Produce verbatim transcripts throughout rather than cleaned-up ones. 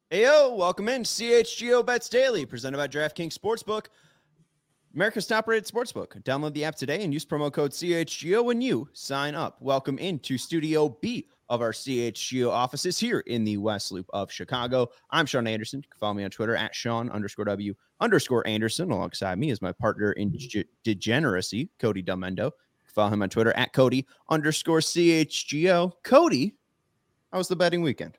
Hey, yo, welcome in C H G O Bets Daily, presented by DraftKings Sportsbook, America's top-rated sportsbook. Download the app today and use promo code C H G O when you sign up. Welcome into Studio B of our C H G O offices here in the West Loop of Chicago. I'm Sean Anderson. You can follow me on Twitter at Sean underscore W underscore Anderson. Alongside me is my partner in g- degeneracy, Cody Delmendo. Follow him on Twitter at Cody underscore C H G O. Cody, how was the betting weekend?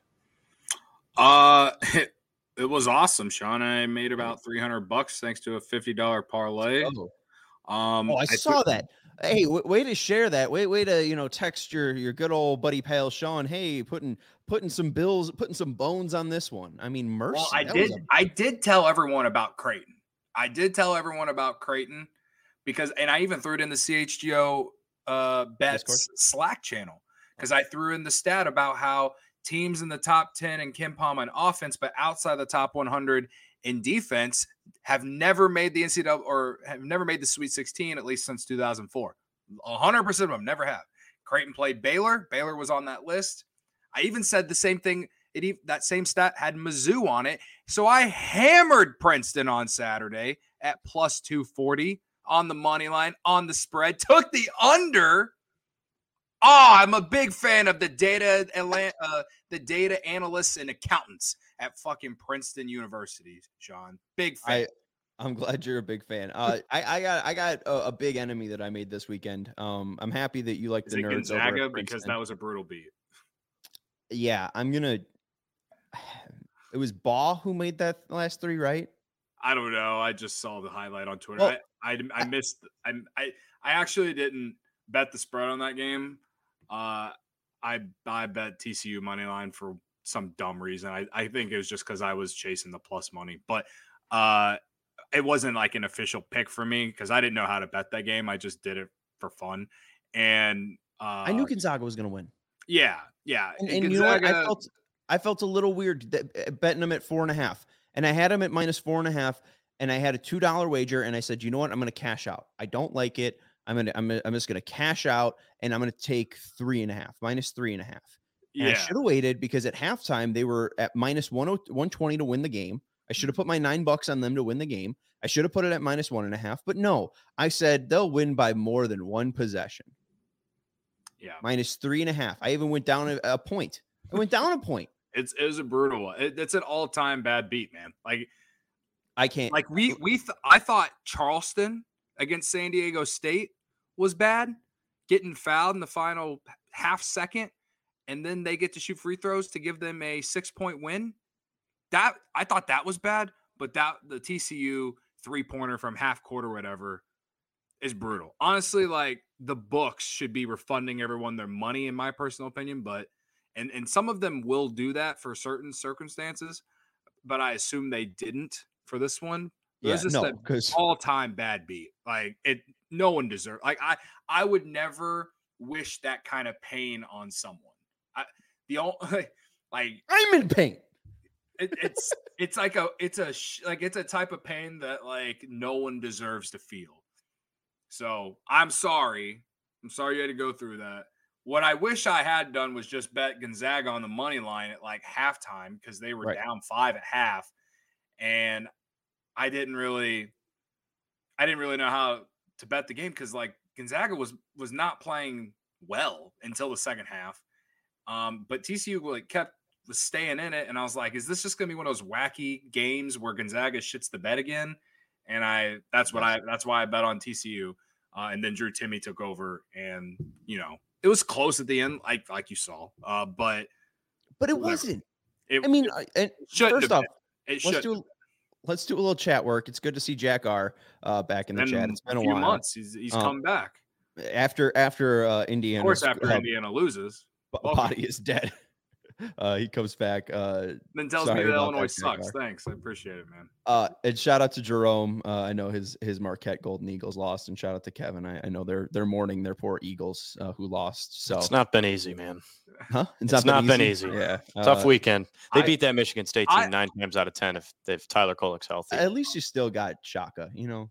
Uh, it, it was awesome, Sean. I made about three hundred bucks thanks to a fifty dollars parlay. Oh, Um, oh I, I saw th- that. Hey, w- way to share that. Way, way to, you know, text your, your good old buddy pal Sean. Hey, putting, putting some bills, putting some bones on this one. I mean, mercy. Well, I that did. A- I did tell everyone about Creighton. I did tell everyone about Creighton because, and I even threw it in the C H G O uh, bets Discord Slack channel because I threw in the stat about how teams in the top ten in KenPom on offense, but outside the top one hundred in defense, have never made the N C double A or have never made the Sweet sixteen, at least since two thousand four. one hundred percent of them never have. Creighton played Baylor. Baylor was on that list. I even said the same thing. It, that same stat had Mizzou on it. So I hammered Princeton on Saturday at plus two forty on the money line, on the spread, took the under. Oh, I'm a big fan of the data, uh, the data analysts and accountants at fucking Princeton University, Sean. Big fan. I, I'm glad you're a big fan. Uh, I, I got I got a, a big enemy that I made this weekend. Um, I'm happy that you like the Is it nerds Gonzaga over because that was a brutal beat. Yeah, I'm gonna. It was Baugh who made that last three, right? I don't know. I just saw the highlight on Twitter. Well, I, I I missed. I I I actually didn't bet the spread on that game. Uh, I I bet T C U money line for some dumb reason. I, I think it was just because I was chasing the plus money, but uh, it wasn't like an official pick for me because I didn't know how to bet that game. I just did it for fun, and uh, I knew Gonzaga was going to win. Yeah, yeah, and, and, and Gonzaga, you know what? I felt I felt a little weird that, betting them at four and a half, and I had them at minus four and a half, and I had a two dollar wager, and I said, you know what, I'm going to cash out. I don't like it. I'm gonna, I'm, I'm just gonna cash out, and I'm gonna take three and a half, minus three and a half. And yeah. I should have waited because at halftime they were at minus one twenty to win the game. I should have put my nine bucks on them to win the game. I should have put it at minus one and a half, but no, I said they'll win by more than one possession. Yeah, minus three and a half. I even went down a, a point. I went down a point. It's it was a brutal one. It, it's an all time bad beat, man. Like I can't. Like we we th- I thought Charleston against San Diego State was bad, getting fouled in the final half second, and then they get to shoot free throws to give them a six-point win. That I thought that was bad, but that the T C U three-pointer from half court or whatever is brutal. Honestly, like the books should be refunding everyone their money, in my personal opinion, but and and some of them will do that for certain circumstances, but I assume they didn't for this one. Yeah, just no, because all-time bad beat. Like it, no one deserves. Like I, I would never wish that kind of pain on someone. I, the only, like I'm in pain. It, it's it's like a it's a like it's a type of pain that like no one deserves to feel. So I'm sorry. I'm sorry you had to go through that. What I wish I had done was just bet Gonzaga on the money line at like halftime because they were right. down five at half, and I didn't really, I didn't really know how to bet the game because like Gonzaga was was not playing well until the second half, um, but T C U like kept was staying in it, and I was like, is this just gonna be one of those wacky games where Gonzaga shits the bed again? And I that's what I that's why I bet on T C U, uh, and then Drew Timme took over, and you know it was close at the end, like like you saw, uh, but but it whatever. wasn't. It, I mean, it, it first off, it let's do. Let's do a little chat work. It's good to see Jack R uh, back in the it's chat. It's been a, a few while. months. He's, he's um, come back after after uh, Indiana. Of course, after uh, Indiana loses, body is dead. Uh, he comes back. Uh, then tells me that Illinois that, sucks. Jack Thanks, I appreciate it, man. Uh, and shout out to Jerome. Uh, I know his his Marquette Golden Eagles lost, and shout out to Kevin. I, I know they're they're mourning their poor Eagles uh, who lost. So it's not been easy, man. Huh? It's, it's not, not been easy. Yeah, tough uh, weekend. They I, beat that Michigan State team I, nine times out of ten. If if Tyler Kolek's healthy, at least you still got Shaka. You know,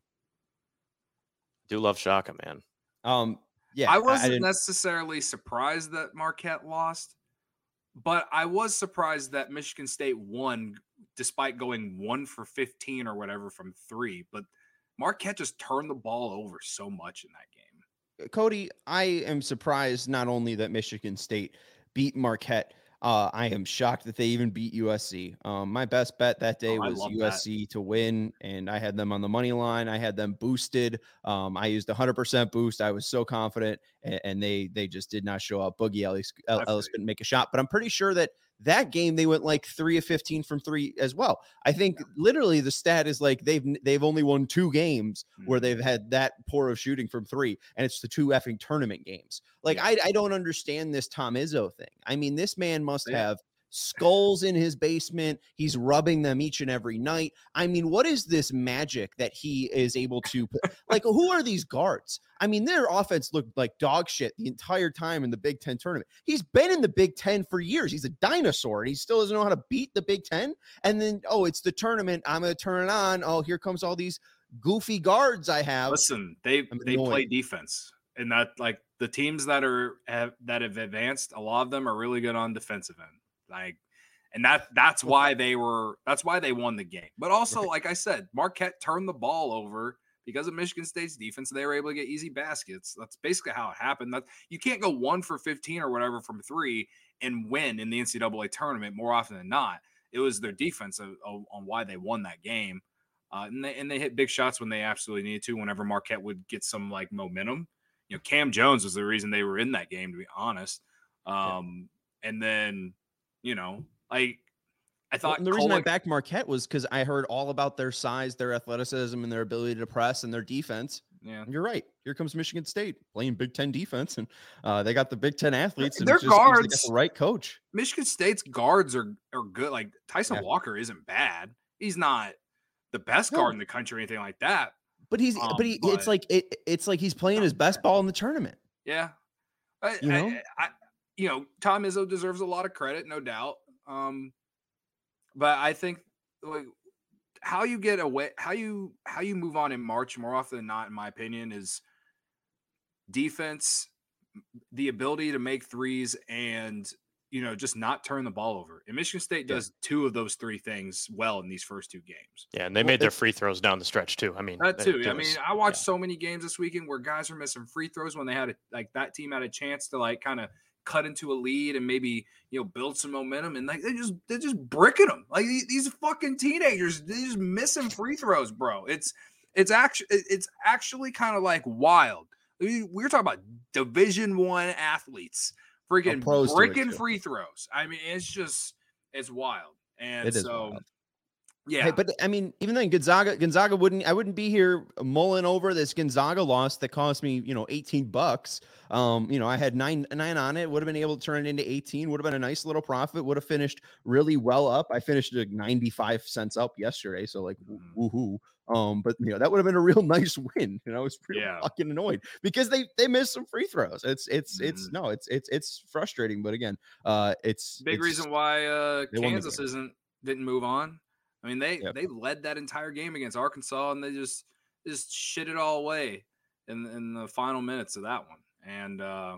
do love Shaka, man. Um, yeah, I wasn't I necessarily surprised that Marquette lost, but I was surprised that Michigan State won despite going one for fifteen or whatever from three. But Marquette just turned the ball over so much in that game. Cody, I am surprised not only that Michigan State beat Marquette. Uh, I am shocked that they even beat U S C. Um, my best bet that day Oh, I was love U S C that. to win, and I had them on the money line. I had them boosted. Um, I used one hundred percent boost. I was so confident, and, and they they just did not show up. Boogie Ellis, Ellis couldn't make a shot, but I'm pretty sure that that game they went like three of fifteen from three as well. I think yeah. literally the stat is like they've they've only won two games mm-hmm. where they've had that poor of shooting from three, and it's the two effing tournament games. Like yeah. I I don't understand this Tom Izzo thing. I mean, this man must yeah. have skulls in his basement. He's rubbing them each and every night. I mean, what is this magic that he is able to put? Like, who are these guards? I mean, their offense looked like dog shit the entire time in the Big Ten tournament. He's been in the Big Ten for years. He's a dinosaur, and he still doesn't know how to beat the Big Ten. And then, oh, it's the tournament. I'm going to turn it on. Oh, here comes all these goofy guards I have. Listen, they they play defense, and that like the teams that are have, that have advanced, a lot of them are really good on defensive end. Like, and that that's why they were that's why they won the game. But also, right. like I said, Marquette turned the ball over because of Michigan State's defense. They were able to get easy baskets. That's basically how it happened. That you can't go one for fifteen or whatever from three and win in the N C double A tournament more often than not. It was their defense of, of, on why they won that game. Uh, and they and they hit big shots when they absolutely needed to. Whenever Marquette would get some like momentum, you know, Cam Jones was the reason they were in that game, to be honest. Um, yeah. And then. You know, like I thought well, the reason Kolek, I backed Marquette was because I heard all about their size, their athleticism, and their ability to press and their defense. Yeah, and you're right. Here comes Michigan State playing Big Ten defense, and uh, they got the Big Ten athletes. And their just guards, they got the right coach. Michigan State's guards are are good. Like Tyson yeah. Walker isn't bad. He's not the best no. guard in the country or anything like that. But he's, um, but he, but, it's like it, it's like he's playing his best ball in the tournament. Yeah, I, you know, I, I, you know, Tom Izzo deserves a lot of credit, no doubt. Um, but I think like how you get away, how you how you move on in March more often than not, in my opinion, is defense, the ability to make threes, and you know just not turn the ball over. And Michigan State does yeah. two of those three things well in these first two games. Yeah, and they well, made their free throws down the stretch too. I mean, that too. It, I was, mean, I watched yeah. so many games this weekend where guys were missing free throws when they had a, like that team had a chance to like kind of cut into a lead and maybe you know build some momentum, and like they just they're just bricking them like these fucking teenagers. They're just missing free throws, bro. It's it's actually it's actually kind of like wild. We we're talking about Division One athletes freaking bricking free throws. I mean, it's just it's wild, and it is so. Wild. Yeah, hey, but I mean, even then Gonzaga, Gonzaga wouldn't, I wouldn't be here mulling over this Gonzaga loss that cost me, you know, eighteen bucks. Um, you know, I had nine, nine on it, would have been able to turn it into eighteen, would have been a nice little profit, would have finished really well up. I finished like ninety-five cents up yesterday. So like, mm-hmm. woohoo. Um, but you know, that would have been a real nice win. And I was pretty yeah. fucking annoyed because they, they missed some free throws. It's, it's, mm-hmm. it's no, it's, it's, it's frustrating, but again, uh, it's big it's, reason why, uh, Kansas isn't, didn't move on. I mean, they, yep. they led that entire game against Arkansas, and they just just shit it all away in in the final minutes of that one. And uh,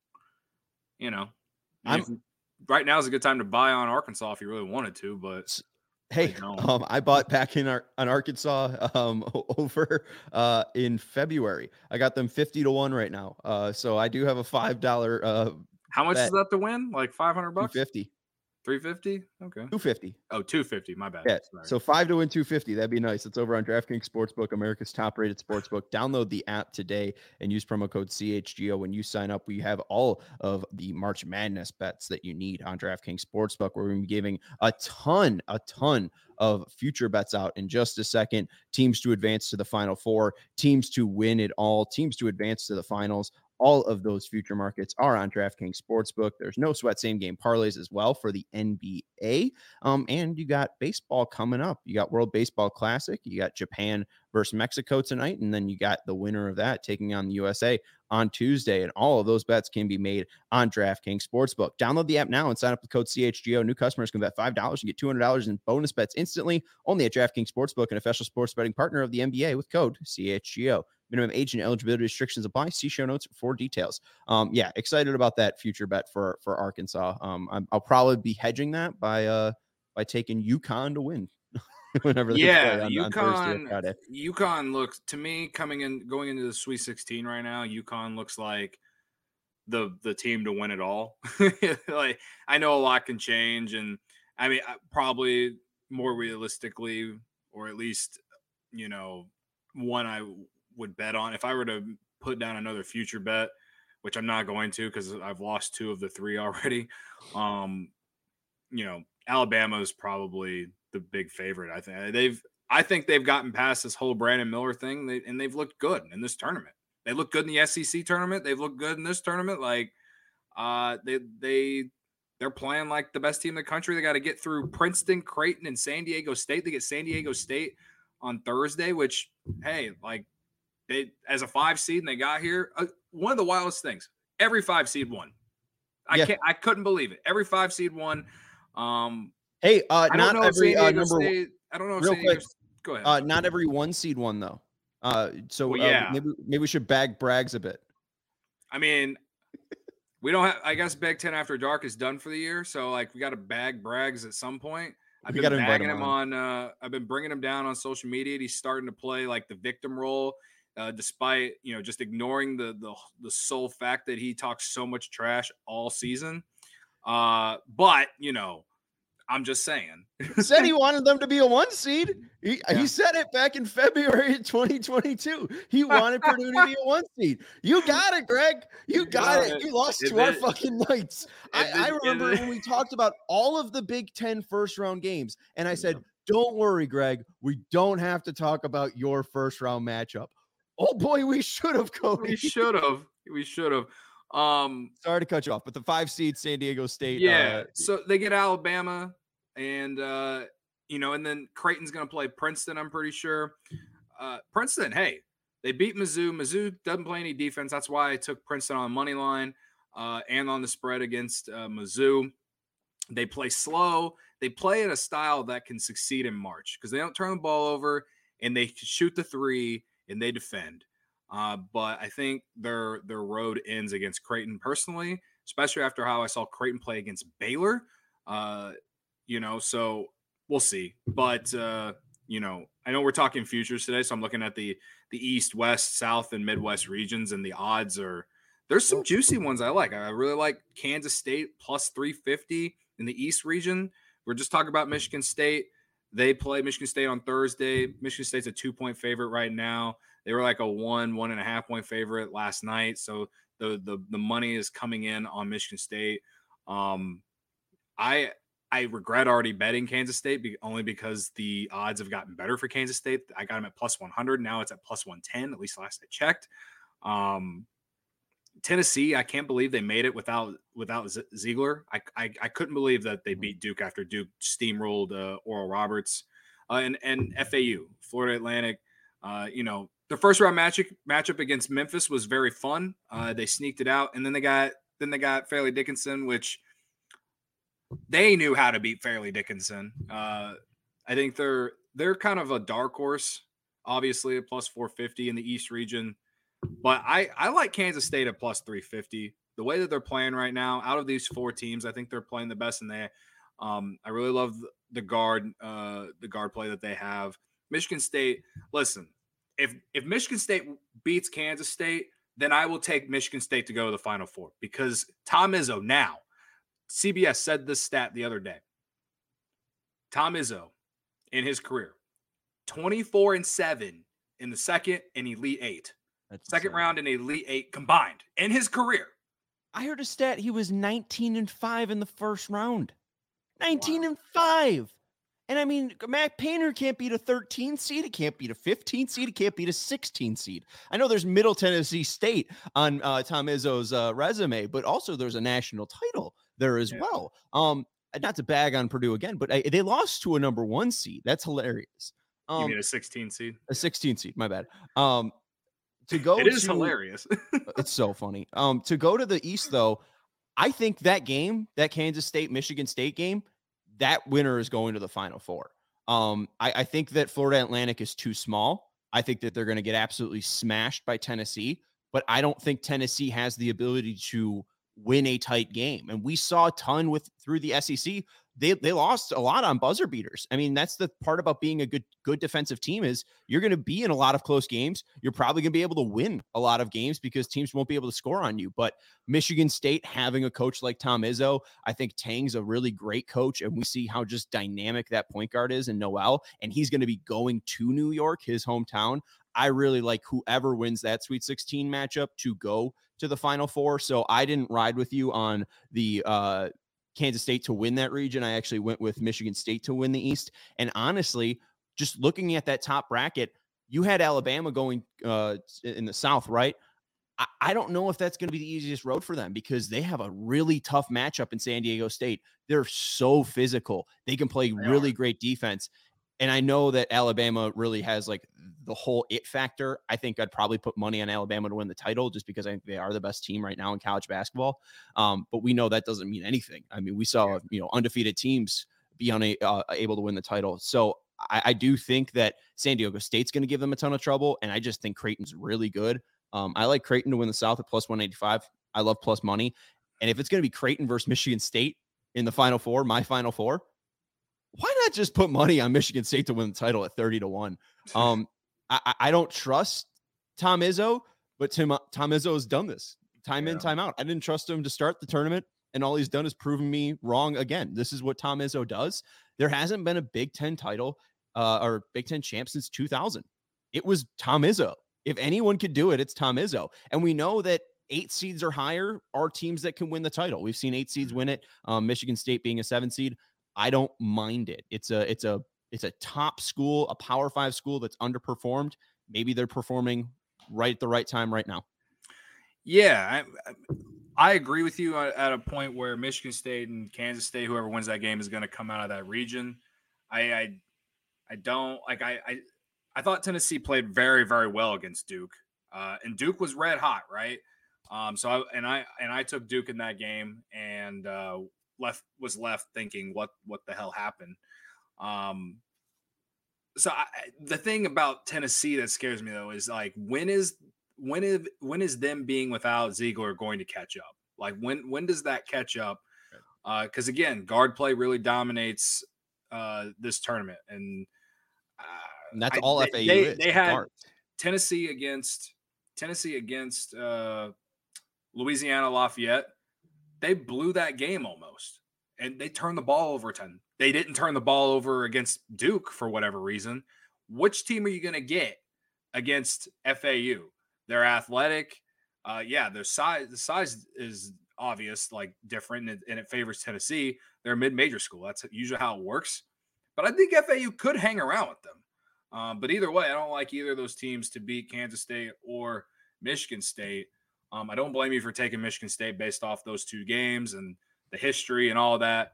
you know, if, right now is a good time to buy on Arkansas if you really wanted to. But hey, I, um, I bought back in our, on Arkansas um, over uh, in February. I got them fifty to one right now. Uh, so I do have a five dollar. Uh, How much bet. Is that to win? Like five hundred bucks? Fifty. three fifty? Okay. two fifty. Oh, two fifty. My bad. Yeah. Sorry. So five to win two fifty. That'd be nice. It's over on DraftKings Sportsbook, America's top rated sportsbook. Download the app today and use promo code C H G O when you sign up. We have all of the March Madness bets that you need on DraftKings Sportsbook. We're going to be giving a ton, a ton of future bets out in just a second. Teams to advance to the Final Four, teams to win it all, teams to advance to the finals. All of those future markets are on DraftKings Sportsbook. There's no sweat same game parlays as well for the N B A. Um, and you got baseball coming up. You got World Baseball Classic. You got Japan versus Mexico tonight. And then you got the winner of that taking on the U S A on Tuesday. And all of those bets can be made on DraftKings Sportsbook. Download the app now and sign up with code C H G O. New customers can bet five dollars and get two hundred dollars in bonus bets instantly. Only at DraftKings Sportsbook, an official sports betting partner of the N B A with code C H G O. Minimum age and eligibility restrictions apply. See show notes for details. Um, yeah, excited about that future bet for for Arkansas. Um, I'm, I'll probably be hedging that by uh by taking UConn to win. Whenever they yeah, play on, UConn, on Thursday or Friday. UConn looks to me coming in, going into the Sweet sixteen right now. UConn looks like the the team to win it all. Like I know a lot can change, and I mean probably more realistically, or at least you know one I would bet on if I were to put down another future bet, which I'm not going to because I've lost two of the three already. Um, you know, Alabama is probably the big favorite. I think they've, I think they've gotten past this whole Brandon Miller thing, they, and they've looked good in this tournament. They look good in the S E C tournament. They've looked good in this tournament. Like, uh, they they they're playing like the best team in the country. They got to get through Princeton, Creighton, and San Diego State. They get San Diego State on Thursday, which hey, like they as a five seed and they got here. Uh, one of the wildest things. Every five seed won. I yeah. can't. I couldn't believe it. Every five seed won. Um, hey, uh, I not don't know every if uh, San Diego number State, I don't know if real San Diego, quick. Go ahead. Uh, not every one seed won though. Uh, so well, uh, yeah. maybe maybe we should bag Braggs a bit. I mean, we don't have. I guess Big Ten After Dark is done for the year, so like we got to bag Braggs at some point. I've we been invite bagging him him on. on. Uh, I've been bringing him down on social media. He's starting to play like the victim role, uh, despite you know just ignoring the the the sole fact that he talks so much trash all season. Uh, but you know. I'm just saying. Said he wanted them to be a one seed. He, yeah. he said it back in February twenty twenty-two. He wanted Purdue to be a one seed. You got it, Greg. You got it. You lost to our fucking Knights. I, I remember when we talked about all of the Big Ten first round games, and I said, don't worry, Greg. We don't have to talk about your first round matchup. Oh boy, we should have, Cody. We should have. We should have. Um, sorry to cut you off, but the five seed San Diego State. Yeah, uh, so they get Alabama, and uh, you know, and then Creighton's going to play Princeton. I'm pretty sure. Uh, Princeton, hey, they beat Mizzou. Mizzou doesn't play any defense. That's why I took Princeton on the money line uh, and on the spread against uh, Mizzou. They play slow. They play in a style that can succeed in March because they don't turn the ball over and they shoot the three and they defend. Uh, but I think their their road ends against Creighton personally, especially after how I saw Creighton play against Baylor. Uh, you know, so we'll see. But uh, you know, I know we're talking futures today, so I'm looking at the the East, West, South, and Midwest regions, and the odds are there's some juicy ones I like. I really like Kansas State plus three fifty in the East region. We're just talking about Michigan State. They play Michigan State on Thursday. Michigan State's a two-point favorite right now. They were like a one, one and a half point favorite last night. So the the the money is coming in on Michigan State. Um, I I regret already betting Kansas State be, only because the odds have gotten better for Kansas State. I got them at plus one hundred. Now it's at plus one ten, at least last I checked. Um, Tennessee, I can't believe they made it without without Z- Ziegler. I, I I couldn't believe that they beat Duke after Duke steamrolled uh, Oral Roberts. Uh, and, and F A U, Florida Atlantic, uh, you know, the first round matchup matchup against Memphis was very fun. Uh, they sneaked it out, and then they got then they got Fairleigh Dickinson, which they knew how to beat Fairleigh Dickinson. Uh, I think they're they're kind of a dark horse, obviously a plus four fifty in the East region, but I I like Kansas State at plus three fifty. The way that they're playing right now, out of these four teams, I think they're playing the best in there. Um, I really love the guard uh, the guard play that they have. Michigan State, listen. If if Michigan State beats Kansas State, then I will take Michigan State to go to the Final Four because Tom Izzo now, C B S said this stat the other day. Tom Izzo, in his career, twenty-four and seven in the second and Elite Eight. That's second insane. Round and Elite Eight combined in his career. I heard a stat he was nineteen and five in the first round. nineteen wow. and five. And I mean, Matt Painter can't beat a thirteen seed. It can't beat a fifteen seed. It can't beat a sixteen seed. I know there's Middle Tennessee State on uh, Tom Izzo's uh, resume, but also there's a national title there as yeah. well. Um, not to bag on Purdue again, but I, they lost to a number one seed. That's hilarious. Um, you mean a sixteen seed? A sixteen seed. My bad. Um, to go, it is to, hilarious. It's so funny. Um, to go to the East though, I think that game, that Kansas State Michigan State game, that winner is going to the Final Four. Um, I, I think that Florida Atlantic is too small. I think that they're going to get absolutely smashed by Tennessee, but I don't think Tennessee has the ability to win a tight game. And we saw a ton with through the S E C. they they lost a lot on buzzer beaters. I mean, that's the part about being a good good defensive team is you're going to be in a lot of close games. You're probably going to be able to win a lot of games because teams won't be able to score on you. But Michigan State having a coach like Tom Izzo, I think Tang's a really great coach, and we see how just dynamic that point guard is in Noel, and he's going to be going to New York, his hometown. I really like whoever wins that Sweet sixteen matchup to go to the Final Four. So I didn't ride with you on the uh, Kansas State to win that region. I actually went with Michigan State to win the East. And honestly, just looking at that top bracket, you had Alabama going uh, in the South, right? I, I don't know if that's going to be the easiest road for them because they have a really tough matchup in San Diego State. They're so physical. They can play They really are. great defense. And I know that Alabama really has like the whole it factor. I think I'd probably put money on Alabama to win the title just because I think they are the best team right now in college basketball. Um, but we know that doesn't mean anything. I mean, we saw, Yeah. you know, undefeated teams be una- uh, able to win the title. So I, I do think that San Diego State's going to give them a ton of trouble. And I just think Creighton's really good. Um, I like Creighton to win the South at plus one eighty-five. I love plus money. And if it's going to be Creighton versus Michigan State in the Final Four, my Final Four, why not just put money on Michigan State to win the title at thirty to one? Um, I, I don't trust Tom Izzo, but Tim, Tom Izzo has done this time Yeah. in, time out. I didn't trust him to start the tournament, and all he's done is proven me wrong again. This is what Tom Izzo does. There hasn't been a Big Ten title uh, or Big Ten champ since two thousand. It was Tom Izzo. If anyone could do it, it's Tom Izzo. And we know that eight seeds or higher are teams that can win the title. We've seen eight seeds win it. Um, Michigan State being a seven seed. I don't mind it. It's a it's a it's a top school, a Power Five school that's underperformed. Maybe they're performing right at the right time right now. Yeah, I, I agree with you at a point where Michigan State and Kansas State, whoever wins that game, is going to come out of that region. I I, I don't like I, I I thought Tennessee played very very well against Duke, uh, and Duke was red hot, right? Um, so I and I and I took Duke in that game and. Uh, left was left thinking what what the hell happened. Um so I, the thing about Tennessee that scares me though is like when is when is when is them being without Ziegler going to catch up? Like when when does that catch up? Uh because again, guard play really dominates uh this tournament, and, uh, And that's I, all they, F A U they, is. they had guards. Tennessee against Tennessee against uh Louisiana Lafayette. They blew that game almost, and they turned the ball over ten. They didn't turn the ball over against Duke for whatever reason. Which team are you going to get against F A U? They're athletic. Uh, yeah, their size, the size is obvious, like different, and it, and it favors Tennessee. They're a mid-major school. That's usually how it works. But I think F A U could hang around with them. Um, but either way, I don't like either of those teams to beat Kansas State or Michigan State. Um, I don't blame you for taking Michigan State based off those two games and the history and all of that.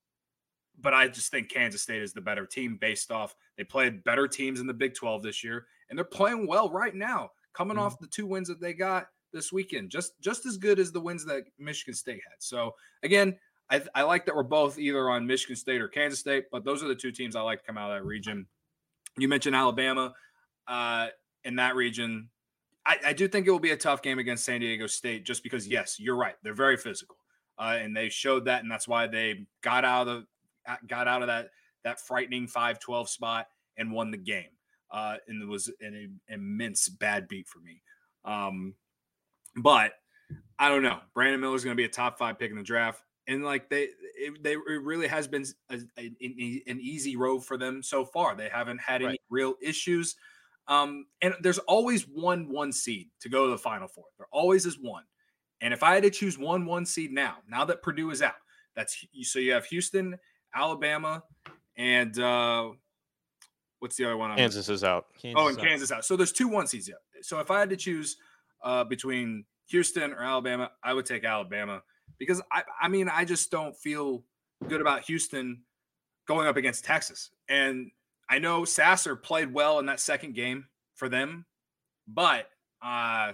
But I just think Kansas State is the better team based off they played better teams in the Big twelve this year, and they're playing well right now, coming mm-hmm. off the two wins that they got this weekend, just just as good as the wins that Michigan State had. So again, I, I like that we're both either on Michigan State or Kansas State, but those are the two teams I like to come out of that region. You mentioned Alabama uh, in that region. I, I do think it will be a tough game against San Diego State just because, yes, you're right. They're very physical, uh, and they showed that, and that's why they got out of the, got out of that that frightening five twelve spot and won the game. Uh, and it was an immense bad beat for me. Um, but I don't know. Brandon Miller is going to be a top five pick in the draft, and like they, it, they it really has been a, a, a, an easy road for them so far. They haven't had any right. real issues. Um, and there's always one one seed to go to the Final Four. There always is one. And if I had to choose one one seed now, now that Purdue is out, that's so you have Houston, Alabama, and uh, what's the other one? Kansas is out. Kansas oh, and Kansas out. out. So there's two one seeds yet. So if I had to choose uh, between Houston or Alabama, I would take Alabama because I, I mean, I just don't feel good about Houston going up against Texas. And I know Sasser played well in that second game for them, but uh,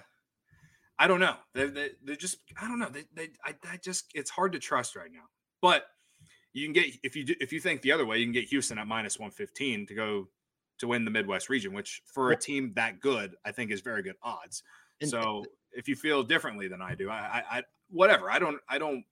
I don't know. They, they, they're just, I don't know. They, they, I, I just, it's hard to trust right now. But you can get, if you do, if you think the other way, you can get Houston at minus one fifteen to go to win the Midwest region, which for a team that good, I think is very good odds. And, so if you feel differently than I do, I, I, I, whatever. I don't, I don't,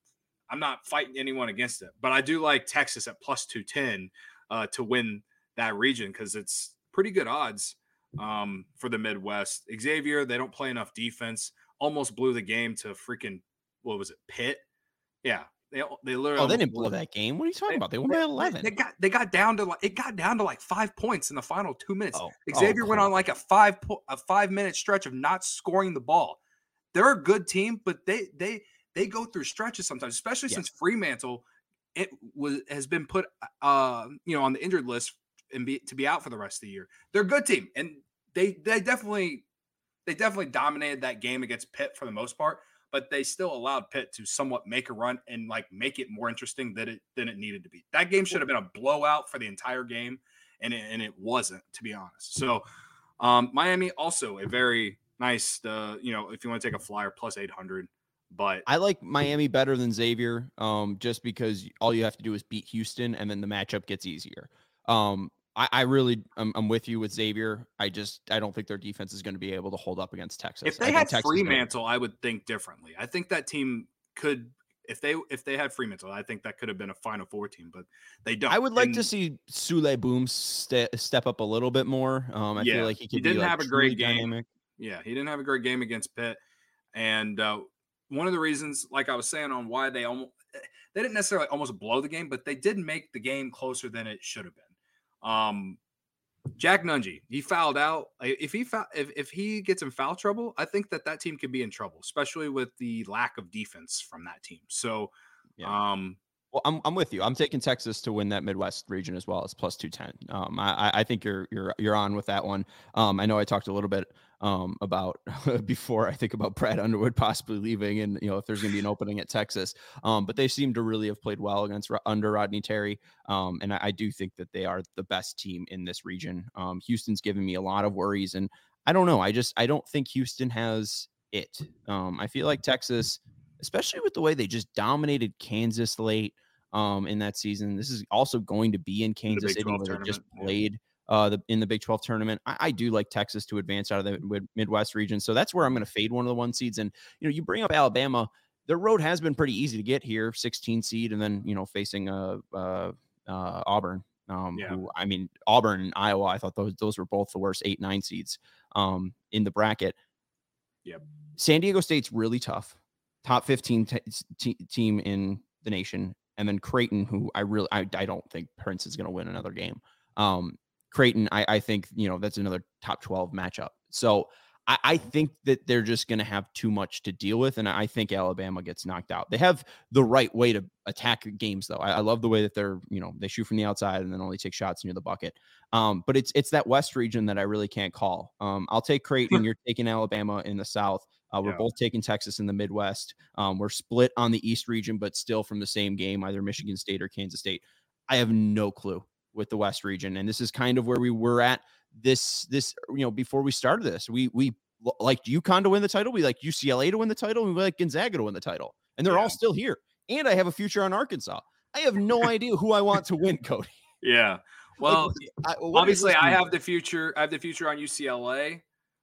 I'm not fighting anyone against it, but I do like Texas at plus two ten uh, to win that region because it's pretty good odds um, for the Midwest. Xavier, they don't play enough defense. Almost blew the game to freaking, what was it, Pitt? Yeah. They, they literally oh, they didn't blow that game. What are you talking they, about? They won by eleven. They got they got down to like it got down to like five points in the final two minutes. Oh, Xavier oh, went on like a five a five minute stretch of not scoring the ball. They're a good team, but they they they go through stretches sometimes, especially yeah. since Fremantle it was has been put uh you know on the injured list and be to be out for the rest of the year. They're a good team, and they they definitely they definitely dominated that game against Pitt for the most part. But they still allowed Pitt to somewhat make a run and like make it more interesting than it than it needed to be. That game should have been a blowout for the entire game, and it, and it wasn't, to be honest. So um, Miami also a very nice, uh, you know, if you want to take a flyer, plus eight hundred. But I like Miami better than Xavier, um, just because all you have to do is beat Houston, and then the matchup gets easier. Um, I, I really, I'm, I'm with you with Xavier. I just, I don't think their defense is going to be able to hold up against Texas. If they had Fremantle, I would think differently. I think that team could, if they, if they had Fremantle, I think that could have been a Final Four team, but they don't. I would like and, to see Sule Boom ste- step up a little bit more. Um, I yeah, feel like he could. He didn't be, like, have a great game. Dynamic. Yeah, he didn't have a great game against Pitt, and uh, one of the reasons, like I was saying, on why they almost, they didn't necessarily almost blow the game, but they did make the game closer than it should have been. Um. Jack Nungy, he fouled out. If he foul, if, if he gets in foul trouble, I think that that team could be in trouble, especially with the lack of defense from that team. So, yeah. um, well, I'm I'm with you. I'm taking Texas to win that Midwest region as well as plus two ten. Um, I I think you're you're you're on with that one. Um, I know I talked a little bit um about before I think about Brad Underwood possibly leaving, and you know if there's going to be an opening at Texas. Um, but they seem to really have played well against under Rodney Terry. Um, and I, I do think that they are the best team in this region. Um, Houston's given me a lot of worries, and I don't know. I just I don't think Houston has it. Um, I feel like Texas, especially with the way they just dominated Kansas late. Um, in that season, this is also going to be in Kansas City, where they just played uh, the, in the Big twelve tournament. I, I do like Texas to advance out of the Midwest region, so that's where I'm going to fade one of the one seeds. And you know, you bring up Alabama, their road has been pretty easy to get here, sixteen seed, and then you know facing uh, uh, uh Auburn. Um, yeah. who, I mean, Auburn and Iowa, I thought those those were both the worst eight nine seeds um in the bracket. Yep. San Diego State's really tough, top fifteen t- t- team in the nation. And then Creighton, who I really, I, I don't think Prince is going to win another game. Um, Creighton, I, I think, you know, that's another top twelve matchup. So I, I think that they're just going to have too much to deal with. And I think Alabama gets knocked out. They have the right way to attack games, though. I, I love the way that they're, you know, they shoot from the outside and then only take shots near the bucket. Um, but it's, it's that West region that I really can't call. Um, I'll take Creighton. You're taking Alabama in the South. Uh, we're yeah. both taking Texas in the Midwest. Um, we're split on the East region, but still from the same game, either Michigan State or Kansas State. I have no clue with the West region. And this is kind of where we were at this, this, you know, before we started this, we, we liked UConn to win the title. We like U C L A to win the title. And we like Gonzaga to win the title. And they're yeah. all still here. And I have a future on Arkansas. I have no idea who I want to win, Cody. Yeah. Well, like, I, obviously I have the future. I have the future on U C L A.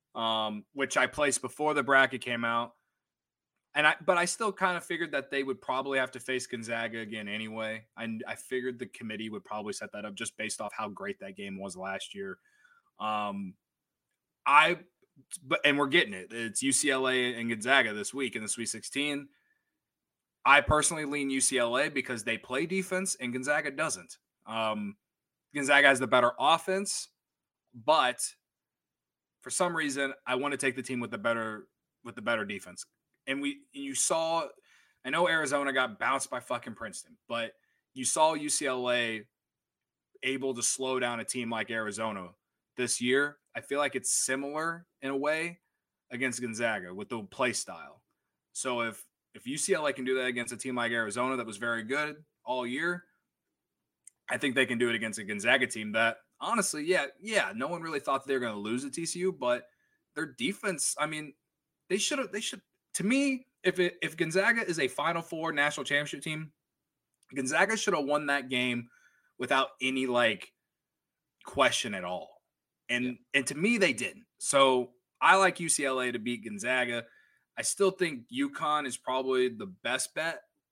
Um, which I placed before the bracket came out. And I, but I still kind of figured that they would probably have to face Gonzaga again anyway. I, I figured the committee would probably set that up just based off how great that game was last year. Um, I, but, and we're getting it. It's U C L A and Gonzaga this week in the Sweet sixteen. I personally lean U C L A because they play defense and Gonzaga doesn't. Um, Gonzaga has the better offense, but for some reason, I want to take the team with the better with the better defense. And we you saw, I know Arizona got bounced by fucking Princeton, but you saw U C L A able to slow down a team like Arizona this year. I feel like it's similar in a way against Gonzaga with the play style. So if if U C L A can do that against a team like Arizona that was very good all year, I think they can do it against a Gonzaga team that honestly, yeah, yeah, no one really thought they were going to lose at T C U, but their defense, I mean, they should have, they should, to me, if it, if Gonzaga is a Final Four national championship team, Gonzaga should have won that game without any like question at all. And, yeah. and to me, they didn't. So I like U C L A to beat Gonzaga. I still think UConn is probably the best bet,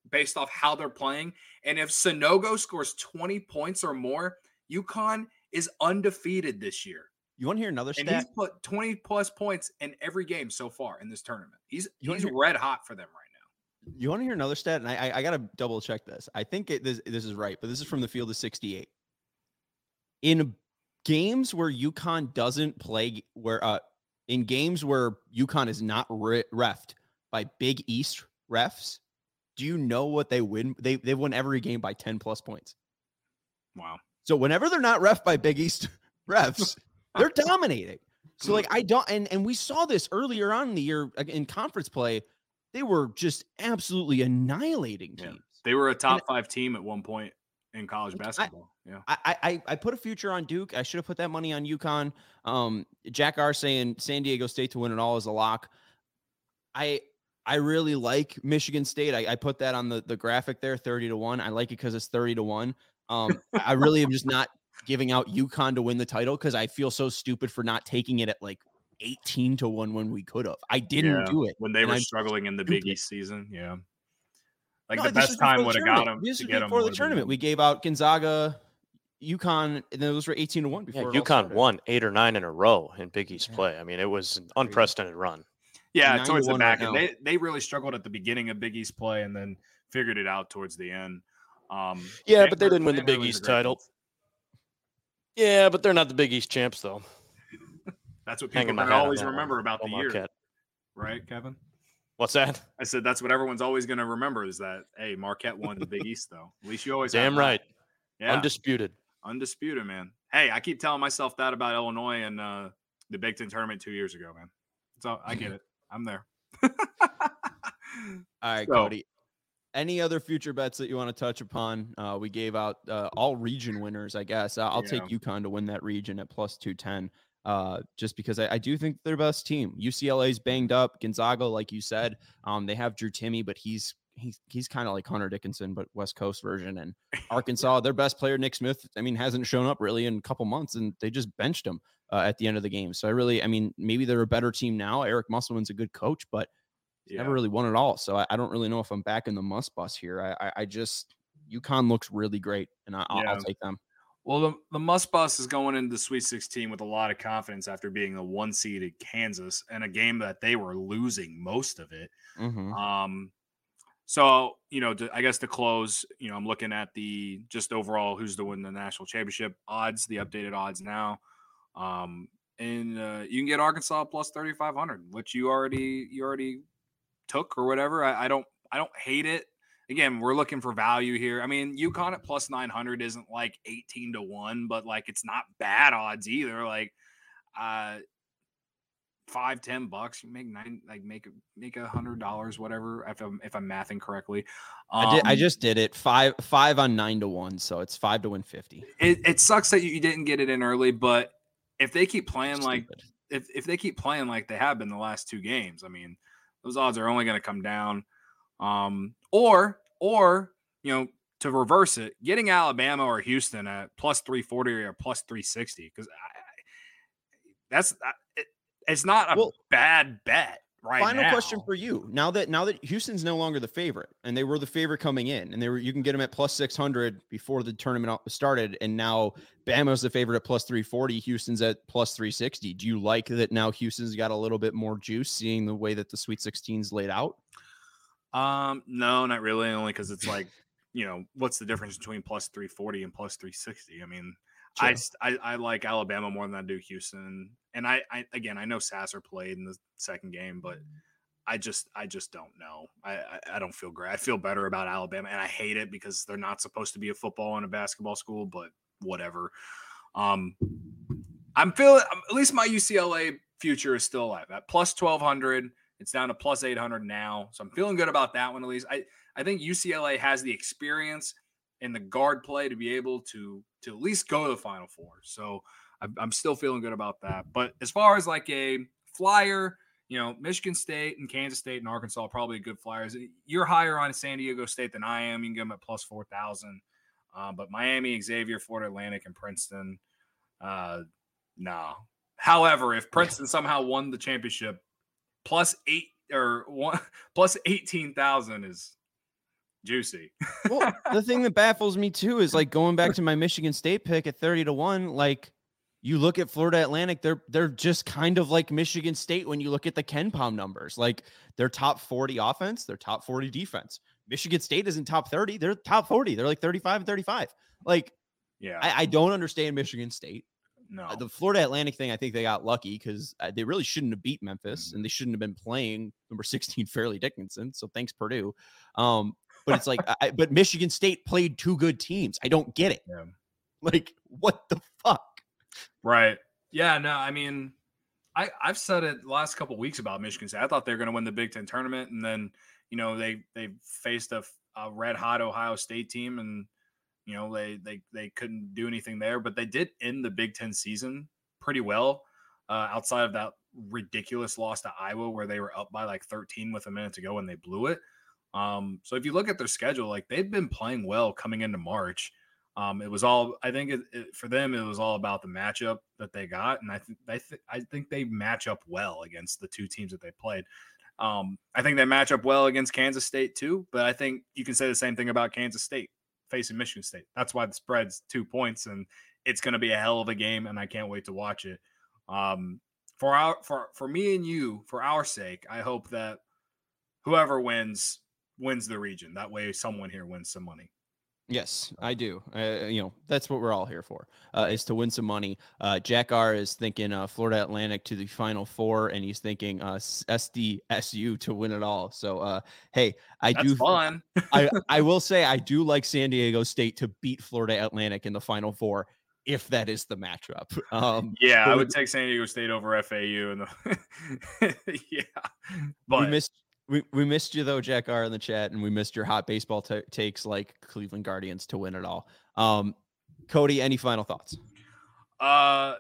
based off how they're playing. And if Sonogo scores twenty points or more, UConn is undefeated this year. You want to hear another And stat? he's put twenty plus points in every game so far in this tournament. He's You he's hear- red hot for them right now. You want to hear another stat? And I, I, I got to double check this. I think it, this, this is right, but this is from the field of sixty-eight. In games where UConn doesn't play, where uh, in games where UConn is not re- refed by Big East refs, do you know what they win? They they won every game by ten plus points. Wow. So whenever they're not ref by Big East refs, they're dominating. So like I don't, and and we saw this earlier on in the year in conference play. They were just absolutely annihilating teams. Yeah. They were a top And, five team at one point in college basketball. I, yeah. I, I I put a future on Duke. I should have put that money on UConn. Um, Jack R saying San Diego State to win it all is a lock. I I really like Michigan State. I, I put that on the, the graphic there, thirty to one. I like it because it's thirty to one. Um, I really am just not giving out UConn to win the title because I feel so stupid for not taking it at like eighteen to one when we could have. I didn't Yeah, do it when they were I'm struggling in the stupid. Big East season. Yeah. Like No, the this best was before time the would have got tournament. them This to was get them before the tournament. We gave out Gonzaga, UConn, and those were eighteen to one Yeah, before. it all UConn started. won eight or nine in a row in Big East Yeah. play. I mean, it was an unprecedented run. Yeah, nine towards to the one back right end. now. They they really struggled at the beginning of Big East play and then figured it out towards the end. Um, Yeah, but they Van didn't win the Van Big Hurley's a East great title. coach. Yeah, but they're not the Big East champs, though. That's what people Hanging my are going to hat on always that one. remember about Go the year, Marquette. right, Kevin? What's that? I said that's what everyone's always going to remember is that, hey, Marquette won the Big East, though. At least you always have Damn that. right. Yeah, Undisputed. undisputed, man. Hey, I keep telling myself that about Illinois and uh, the Big Ten tournament two years ago, man. So I get it. I'm there. All right, So- Cody. Any other future bets that you want to touch upon? Uh, we gave out uh, all region winners, I guess. Uh, I'll take Yeah. UConn to win that region at plus two ten, uh, just because I, I do think they're the best team. U C L A's banged up. Gonzaga, like you said, um, they have Drew Timme, but he's he's he's kind of like Hunter Dickinson, but West Coast version. And Arkansas, their best player, Nick Smith, I mean, hasn't shown up really in a couple months, and they just benched him uh, at the end of the game. So I really, I mean, maybe they're a better team now. Eric Musselman's a good coach, but Yeah. never really won it all. So I, I don't really know if I'm back in the must bus here. I, I, I just UConn looks really great, and I, I'll, Yeah. I'll take them. Well, the, the Must Bus is going into the Sweet sixteen with a lot of confidence after being the one seed at Kansas and a game that they were losing most of it. Mm-hmm. Um, so, you know, to, I guess to close, you know, I'm looking at the just overall who's to win the national championship odds, the updated odds now. Um, and uh, you can get Arkansas plus thirty-five hundred, which you already you already took or whatever. I, I don't I don't hate it. Again, we're looking for value here. I mean, UConn at plus nine hundred isn't like eighteen to one, but like it's not bad odds either. Like uh five, ten bucks, you make nine, like make make a hundred dollars, whatever, if I'm if I'm mathing correctly. Um, I did. I just did it five five on nine to one, so it's five to win fifty. it, it sucks that you, you didn't get it in early, but if they keep playing like Stupid. if if they keep playing like they have been the last two games, I mean, those odds are only going to come down. Um, or or you know, to reverse it, getting Alabama or Houston at plus three forty or plus three sixty, because that's it, it's not a Well, bad bet right Final now. question for you. Now that now that Houston's no longer the favorite, and they were the favorite coming in, and they were you can get them at plus six hundred before the tournament started, and now Bama's the favorite at plus three forty. Houston's at plus three sixty. Do you like that now Houston's got a little bit more juice, seeing the way that the Sweet sixteen's laid out? Um, no, not really. Only because it's like, you know, what's the difference between plus three forty and plus three sixty? I mean, I, True. I I like Alabama more than I do Houston, and I, I again I know Sasser played in the second game, but I just I just don't know. I, I I don't feel great. I feel better about Alabama, and I hate it because they're not supposed to be a football and a basketball school, but whatever. Um, I'm feeling at least my U C L A future is still alive at plus twelve hundred. It's down to plus eight hundred now. So I'm feeling good about that one at least. I, I think U C L A has the experience and the guard play to be able to, to at least go to the Final Four. So I'm, I'm still feeling good about that. But as far as like a flyer, you know, Michigan State and Kansas State and Arkansas are probably good flyers. You're higher on San Diego State than I am. You can get them at plus four thousand. Uh, but Miami, Xavier, Florida Atlantic, and Princeton, uh, no. However, if Princeton somehow won the championship, plus eight or one plus eighteen thousand is juicy. Well, the thing that baffles me too is like going back to my Michigan State pick at thirty to one. Like you look at Florida Atlantic, they're they're just kind of like Michigan State when you look at the KenPom numbers. Like they're top forty offense, they're top forty defense. Michigan State isn't top thirty, they're top forty. They're like thirty-five and thirty-five. Like, yeah, I, I don't understand Michigan State. No, uh, the Florida Atlantic thing, I think they got lucky because uh, they really shouldn't have beat Memphis mm-hmm. and they shouldn't have been playing number sixteen Fairleigh Dickinson. So thanks, Purdue. Um, but it's like, I, but Michigan State played two good teams. I don't get it. Yeah. Like, what the fuck? Right. Yeah. No, I mean, I, I've said it the last couple of weeks about Michigan State. I thought they were going to win the Big Ten tournament. And then, you know, they, they faced a, a red hot Ohio State team and, you know, they, they, they couldn't do anything there, but they did end the Big Ten season pretty well uh, outside of that ridiculous loss to Iowa where they were up by like thirteen with a minute to go and they blew it. Um, so if you look at their schedule, like they've been playing well coming into March. Um, it was all, I think it, it, for them, it was all about the matchup that they got. And I think, I, th- I think they match up well against the two teams that they played. Um, I think they match up well against Kansas State too, but I think you can say the same thing about Kansas State facing Michigan State. That's why the spread's two points and it's going to be a hell of a game. And I can't wait to watch it. Um, for our, for, for me and you, for our sake, I hope that whoever wins, wins the region. That way someone here wins some money. Yes, I do. Uh, you know, that's what we're all here for, uh, is to win some money. Uh, Jack R is thinking uh, Florida Atlantic to the Final Four, and he's thinking uh, S D S U to win it all. So, uh, hey, I that's do. Fun. I, I will say I do like San Diego State to beat Florida Atlantic in the Final Four if that is the matchup. Um, yeah, I would take San Diego State over F A U. And the yeah, but we missed. We we missed you though, Jack R in the chat, and we missed your hot baseball t- takes like Cleveland Guardians to win it all. Um, Cody, any final thoughts? Uh,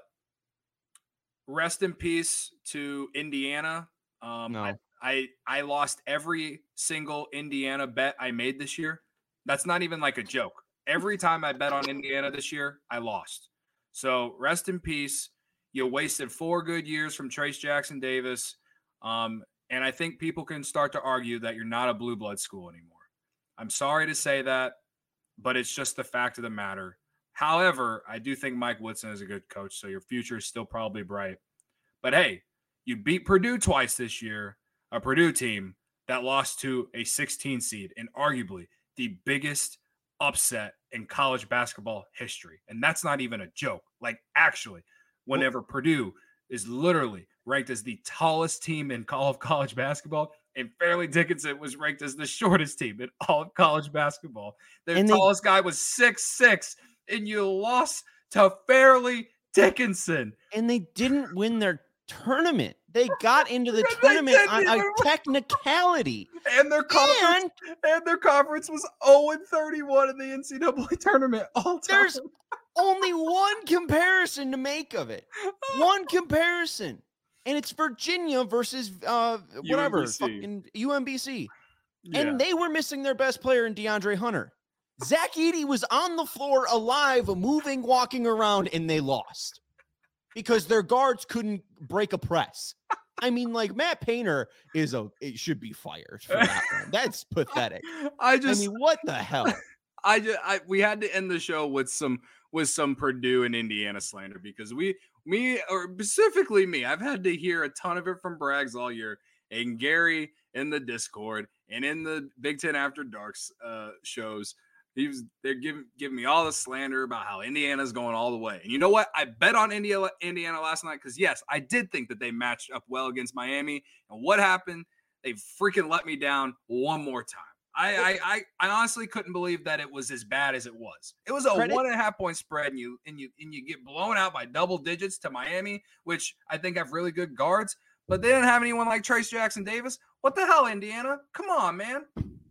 rest in peace to Indiana. Um, no. I, I I lost every single Indiana bet I made this year. That's not even like a joke. Every time I bet on Indiana this year, I lost. So rest in peace. You wasted four good years from Trace Jackson Davis. Um. And I think people can start to argue that you're not a blue blood school anymore. I'm sorry to say that, but it's just the fact of the matter. However, I do think Mike Woodson is a good coach, so your future is still probably bright. But hey, you beat Purdue twice this year, a Purdue team that lost to a sixteen seed and arguably the biggest upset in college basketball history. And that's not even a joke. Like actually, whenever Purdue is literally ranked as the tallest team in all of college basketball, and Fairleigh Dickinson was ranked as the shortest team in all of college basketball. Their and tallest they, guy was six six, and you lost to Fairleigh Dickinson. And they didn't win their tournament. They got into the tournament on a technicality. And their conference and, and their conference was oh and thirty-one in the N C double A tournament all time. There's only one comparison to make of it. One comparison. And it's Virginia versus uh, whatever, fucking U M B C. Yeah. And they were missing their best player in DeAndre Hunter. Zach Edey was on the floor alive, moving, walking around, and they lost. Because their guards couldn't break a press. I mean, like, Matt Painter is a, it should be fired for that one. That's pathetic. I just, I mean, what the hell? I just, I, we had to end the show with some, with some Purdue and Indiana slander because we, me, or specifically me, I've had to hear a ton of it from Braggs all year, and Gary in the Discord and in the Big Ten After Darks uh, shows. He was they're giving giving me all the slander about how Indiana's going all the way. And you know what? I bet on Indiana Indiana last night because yes, I did think that they matched up well against Miami. And what happened? They freaking let me down one more time. I I I, I honestly couldn't believe that it was as bad as it was. It was a Credit. one and a half point spread, and you and you and you get blown out by double digits to Miami, which I think have really good guards, but they didn't have anyone like Trace Jackson Davis. What the hell, Indiana? Come on, man.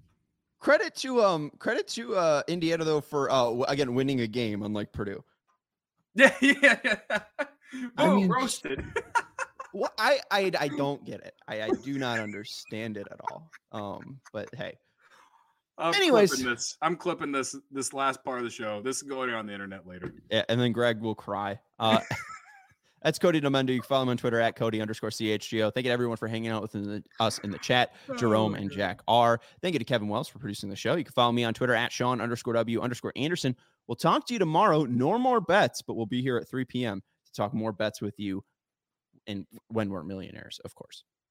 Credit to um credit to uh Indiana though for uh again winning a game unlike Purdue. Yeah, yeah, yeah. I mean, roasted. Well, I, I I don't get it. I, I do not understand it at all. Um, but hey. I'm Anyways, clipping this. I'm clipping this this last part of the show. This is going on the internet later. Yeah, and then Greg will cry. Uh That's Cody Domendo. You can follow him on Twitter at Cody underscore C H G O. Thank you to everyone for hanging out with the, us in the chat. Jerome oh, and Jack R. Thank you to Kevin Wells for producing the show. You can follow me on Twitter at Sean underscore W underscore Anderson. We'll talk to you tomorrow. No more bets, but we'll be here at three p.m. to talk more bets with you and when we're millionaires, of course.